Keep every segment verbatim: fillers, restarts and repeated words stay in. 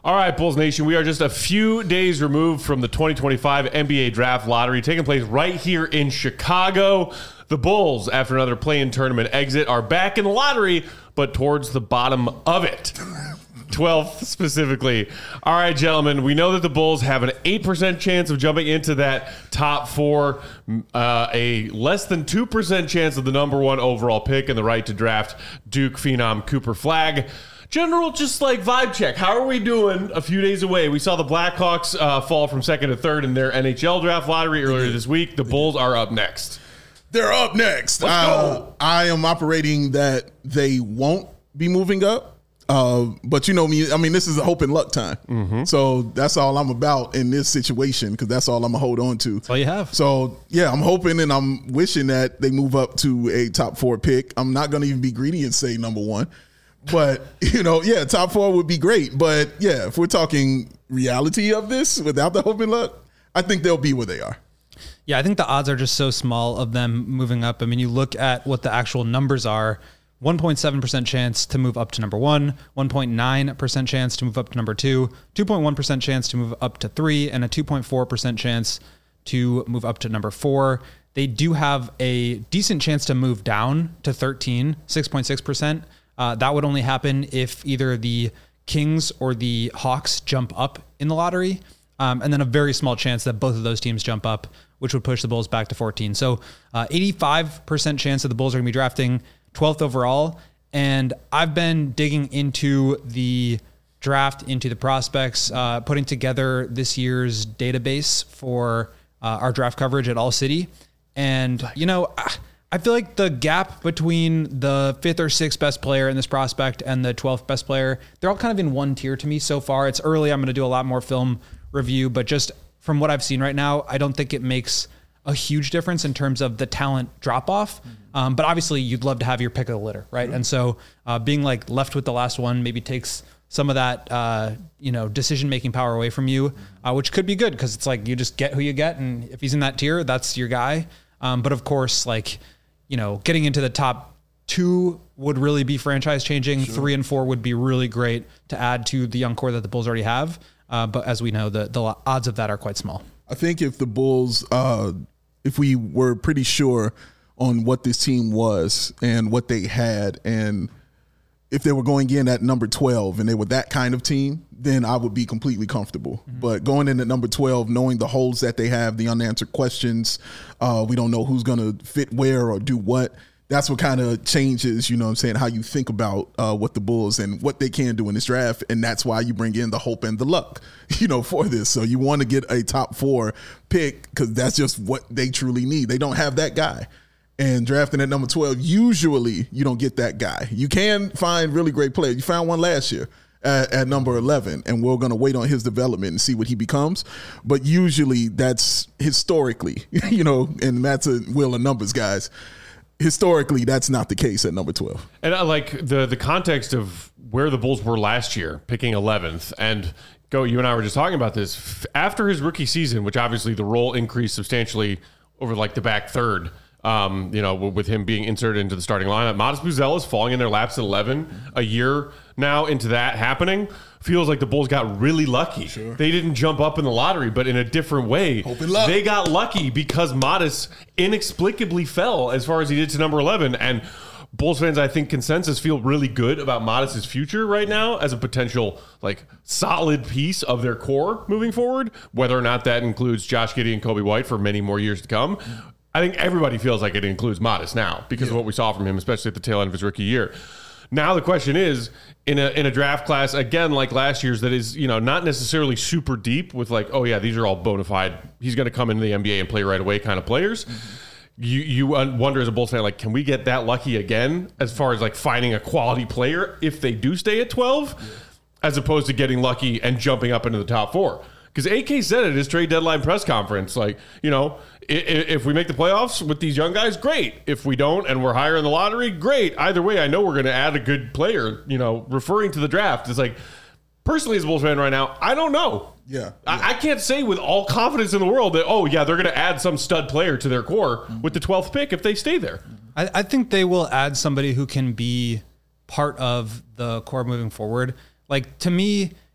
All right, Bulls Nation, we are just a few days removed from the twenty twenty-five N B A Draft Lottery taking place right here in Chicago. The Bulls, after another play-in tournament exit, are back in the lottery, but towards the bottom of it. twelfth specifically. All right, gentlemen, we know that the Bulls have an eight percent chance of jumping into that top four, uh, a less than two percent chance of the number one overall pick, and the right to draft Duke phenom Cooper Flagg. General, just like vibe check. How are we doing a few days away? We saw the Blackhawks uh, fall from second to third in their N H L draft lottery earlier this week. The Bulls are up next. They're up next. Let's uh, go. I am operating that they won't be moving up. Uh, but you know me, I mean, this is a hope and luck time. Mm-hmm. So that's all I'm about in this situation because that's all I'm going to hold on to. That's all you have. So, yeah, I'm hoping and I'm wishing that they move up to a top four pick. I'm not going to even be greedy and say number one. But, you know, yeah, top four would be great. But, yeah, if we're talking reality of this without the hope and luck, I think they'll be where they are. Yeah, I think the odds are just so small of them moving up. I mean, you look at what the actual numbers are, one point seven percent chance to move up to number one, one point nine percent chance to move up to number two, two point one percent chance to move up to three, and a two point four percent chance to move up to number four. They do have a decent chance to move down to thirteen, six point six percent. Uh, that would only happen if either the Kings or the Hawks jump up in the lottery. Um, and then a very small chance that both of those teams jump up, which would push the Bulls back to fourteen. So uh, eighty-five percent chance that the Bulls are going to be drafting twelfth overall. And I've been digging into the draft, into the prospects, uh, putting together this year's database for uh, our draft coverage at All City. And, you know, I feel like the gap between the fifth or sixth best player in this prospect and the twelfth best player, they're all kind of in one tier to me so far. It's early. I'm going to do a lot more film review, but just from what I've seen right now, I don't think it makes a huge difference in terms of the talent drop off. Mm-hmm. Um, but obviously you'd love to have your pick of the litter, right? Mm-hmm. And so uh, being like left with the last one maybe takes some of that, uh, you know, decision-making power away from you, uh, which could be good because it's like you just get who you get. And if he's in that tier, that's your guy. Um, but of course, like, you know, getting into the top two would really be franchise changing. Sure. Three and four would be really great to add to the young core that the Bulls already have. Uh, but as we know, the, the odds of that are quite small. I think if the Bulls, uh, if we were pretty sure on what this team was and what they had, and if they were going in at number twelve and they were that kind of team, then I would be completely comfortable. Mm-hmm. But going in at number twelve, knowing the holes that they have, the unanswered questions, uh, we don't know who's going to fit where or do what. That's what kind of changes, you know what I'm saying, how you think about uh, what the Bulls and what they can do in this draft. And that's why you bring in the hope and the luck, you know, for this. So you want to get a top four pick because that's just what they truly need. They don't have that guy. And drafting at number twelve, usually you don't get that guy. You can find really great players. You found one last year at, at number eleven, and we're going to wait on his development and see what he becomes. But usually that's historically, you know, and Matt's a wheel of numbers, guys. Historically, that's not the case at number twelve. And I like the the context of where the Bulls were last year, picking eleventh. And Go, you and I were just talking about this. After his rookie season, which obviously the role increased substantially over like the back third, um, you know, with him being inserted into the starting lineup, Modest Buzelis falling in their laps at eleven, a year now into that happening, feels like the Bulls got really lucky. Sure. They didn't jump up in the lottery, but in a different way. Hope and luck. They got lucky because Modest inexplicably fell as far as he did to number eleven. And Bulls fans, I think consensus feel really good about Modest's future right now as a potential like solid piece of their core moving forward, whether or not that includes Josh Giddey and Kobe White for many more years to come. I think everybody feels like it includes Modest now because yeah. of what we saw from him, especially at the tail end of his rookie year. Now the question is, in a in a draft class, again, like last year's, that is, you know, not necessarily super deep with like, oh yeah, these are all bona fide, he's going to come into the N B A and play right away kind of players. Mm-hmm. You you wonder as a Bulls fan, like, can we get that lucky again as far as like finding a quality player if they do stay at twelve, yeah. as opposed to getting lucky and jumping up into the top four? Because A K said at his trade deadline press conference, like, you know, if, if we make the playoffs with these young guys, great. If we don't and we're higher in the lottery, great. Either way, I know we're going to add a good player, you know, referring to the draft. It's like, personally, as a Bulls fan right now, I don't know. Yeah. yeah. I, I can't say with all confidence in the world that, oh, yeah, they're going to add some stud player to their core mm-hmm. with the twelfth pick if they stay there. I, I think they will add somebody who can be part of the core moving forward. Like, to me,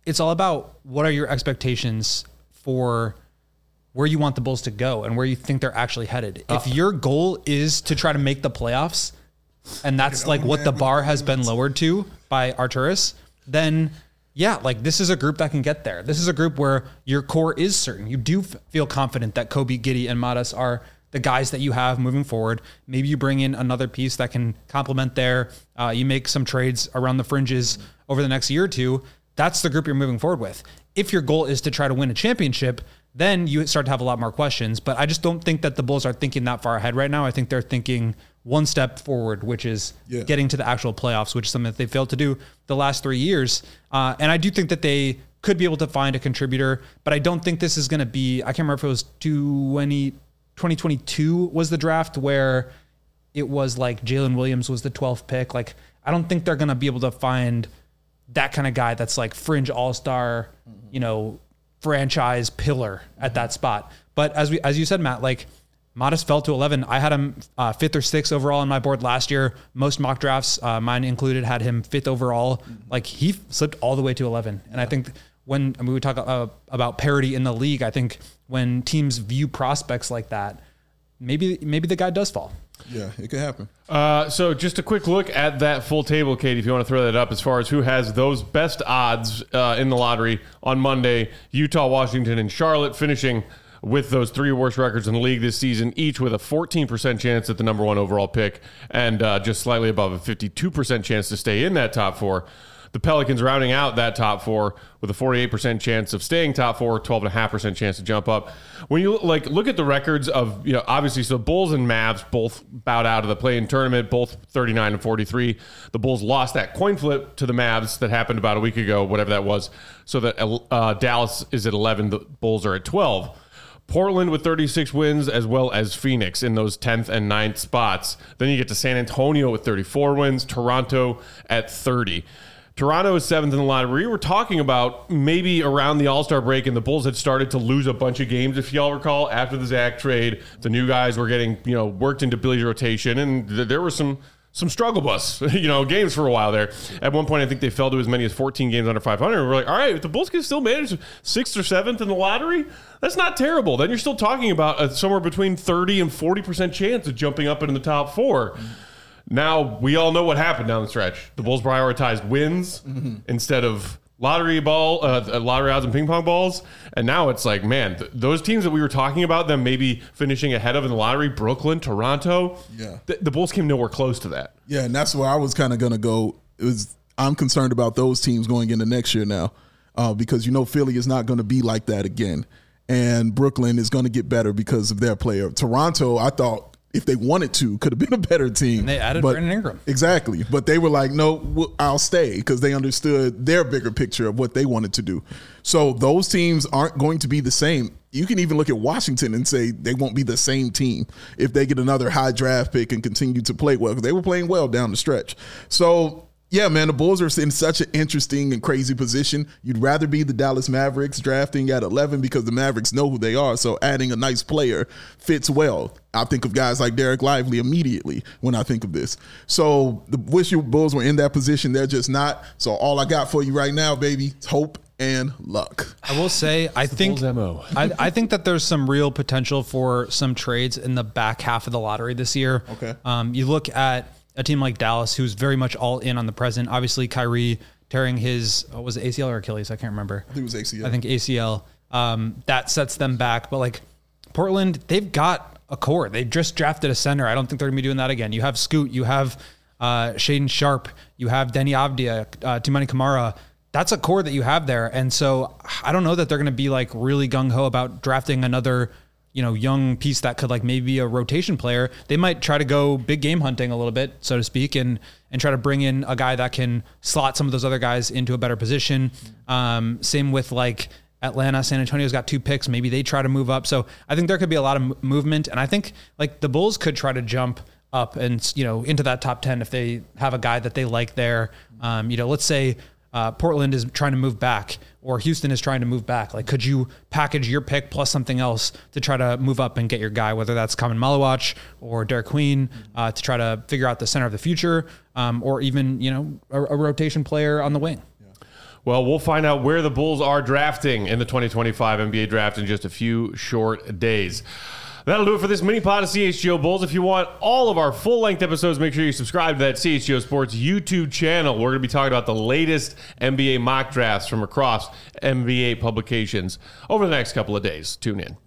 it's all about what are your expectations for where you want the Bulls to go and where you think they're actually headed. Uh, if your goal is to try to make the playoffs, and that's like what the bar has been lowered to by Arturas, then yeah, like this is a group that can get there. This is a group where your core is certain. You do f- feel confident that Kobe, Giddey, and Matas are the guys that you have moving forward. Maybe you bring in another piece that can complement there. Uh, you make some trades around the fringes over the next year or two. That's the group you're moving forward with. If your goal is to try to win a championship, then you start to have a lot more questions. But I just don't think that the Bulls are thinking that far ahead right now. I think they're thinking one step forward, which is yeah. getting to the actual playoffs, which is something that they failed to do the last three years. Uh, and I do think that they could be able to find a contributor, but I don't think this is going to be, I can't remember if it was twenty, twenty twenty-two was the draft where it was like Jalen Williams was the twelfth pick. Like, I don't think they're going to be able to find that kind of guy that's like fringe all-star, you know, franchise pillar at that spot. But as we, as you said, Matt, like Matas fell to eleven. I had him uh, fifth or sixth overall on my board last year. Most mock drafts, uh, mine included, had him fifth overall. Like he slipped all the way to eleven. And I think when I mean, we talk uh, about parity in the league, I think when teams view prospects like that, maybe maybe the guy does fall. Yeah, it could happen. Uh, so just a quick look at that full table, Katie, if you want to throw that up, as far as who has those best odds uh, in the lottery on Monday. Utah, Washington, and Charlotte finishing with those three worst records in the league this season, each with a fourteen percent chance at the number one overall pick and uh, just slightly above a fifty-two percent chance to stay in that top four. The Pelicans rounding out that top four with a forty-eight percent chance of staying top four, twelve point five percent chance to jump up. When you like look at the records of, you know, obviously, so Bulls and Mavs both bowed out of the play-in tournament, both thirty-nine and forty-three. The Bulls lost that coin flip to the Mavs that happened about a week ago, whatever that was, so that uh, Dallas is at eleven, the Bulls are at twelve. Portland with thirty-six wins, as well as Phoenix in those tenth and ninth spots. Then you get to San Antonio with thirty-four wins, Toronto at thirty. Toronto is seventh in the lottery. We were talking about maybe around the All-Star break, and the Bulls had started to lose a bunch of games, if y'all recall, after the Zach trade. The new guys were getting, you know, worked into Billy's rotation, and th- there were some some struggle bus, you know, games for a while there. At one point, I think they fell to as many as fourteen games under five hundred. We're like, all right, if the Bulls can still manage sixth or seventh in the lottery, that's not terrible. Then you're still talking about a, somewhere between thirty and forty percent chance of jumping up into the top four. Mm-hmm. Now, we all know what happened down the stretch. The Bulls prioritized wins mm-hmm. instead of lottery ball, uh, lottery odds and ping pong balls. And now it's like, man, th- those teams that we were talking about, them maybe finishing ahead of in the lottery, Brooklyn, Toronto, yeah, th- the Bulls came nowhere close to that. Yeah, and that's where I was kind of going to go. It was I'm concerned about those teams going into next year now uh, because, you know, Philly is not going to be like that again. And Brooklyn is going to get better because of their player. Toronto, I thought, if they wanted to, could have been a better team. And they added but, Brandon Ingram. Exactly. But they were like, no, I'll stay because they understood their bigger picture of what they wanted to do. So those teams aren't going to be the same. You can even look at Washington and say they won't be the same team if they get another high draft pick and continue to play well because they were playing well down the stretch. So, yeah, man, the Bulls are in such an interesting and crazy position. You'd rather be the Dallas Mavericks drafting at eleven because the Mavericks know who they are, so adding a nice player fits well. I think of guys like Derek Lively immediately when I think of this. So the wish your Bulls were in that position. They're just not. So all I got for you right now, baby, is hope and luck. I will say, I think I, I think that there's some real potential for some trades in the back half of the lottery this year. Okay. Um, you look at a team like Dallas, who's very much all in on the present. Obviously, Kyrie tearing his, what was it, A C L or Achilles? I can't remember. I think it was A C L. I think A C L. Um, that sets them back. But like Portland, they've got a core. They just drafted a center. I don't think they're going to be doing that again. You have Scoot. You have uh, Shaedon Sharpe. You have Denny Avdia, uh, Toumani Camara. That's a core that you have there. And so I don't know that they're going to be like really gung-ho about drafting another, you know, young piece that could like maybe be a rotation player. They might try to go big game hunting a little bit, so to speak, and and try to bring in a guy that can slot some of those other guys into a better position. Um, same with like Atlanta. San Antonio's got two picks. Maybe they try to move up. So I think there could be a lot of m- movement. And I think like the Bulls could try to jump up and, you know, into that top ten if they have a guy that they like there. Um, you know, let's say Uh, Portland is trying to move back or Houston is trying to move back. Like, could you package your pick plus something else to try to move up and get your guy, whether that's Kamen Malawach or Derek Queen, uh, to try to figure out the center of the future, um, or even, you know, a, a rotation player on the wing? Well, we'll find out where the Bulls are drafting in the twenty twenty-five N B A draft in just a few short days. That'll do it for this mini pod of C H G O Bulls. If you want all of our full-length episodes, make sure you subscribe to that C H G O Sports YouTube channel. We're going to be talking about the latest N B A mock drafts from across N B A publications over the next couple of days. Tune in.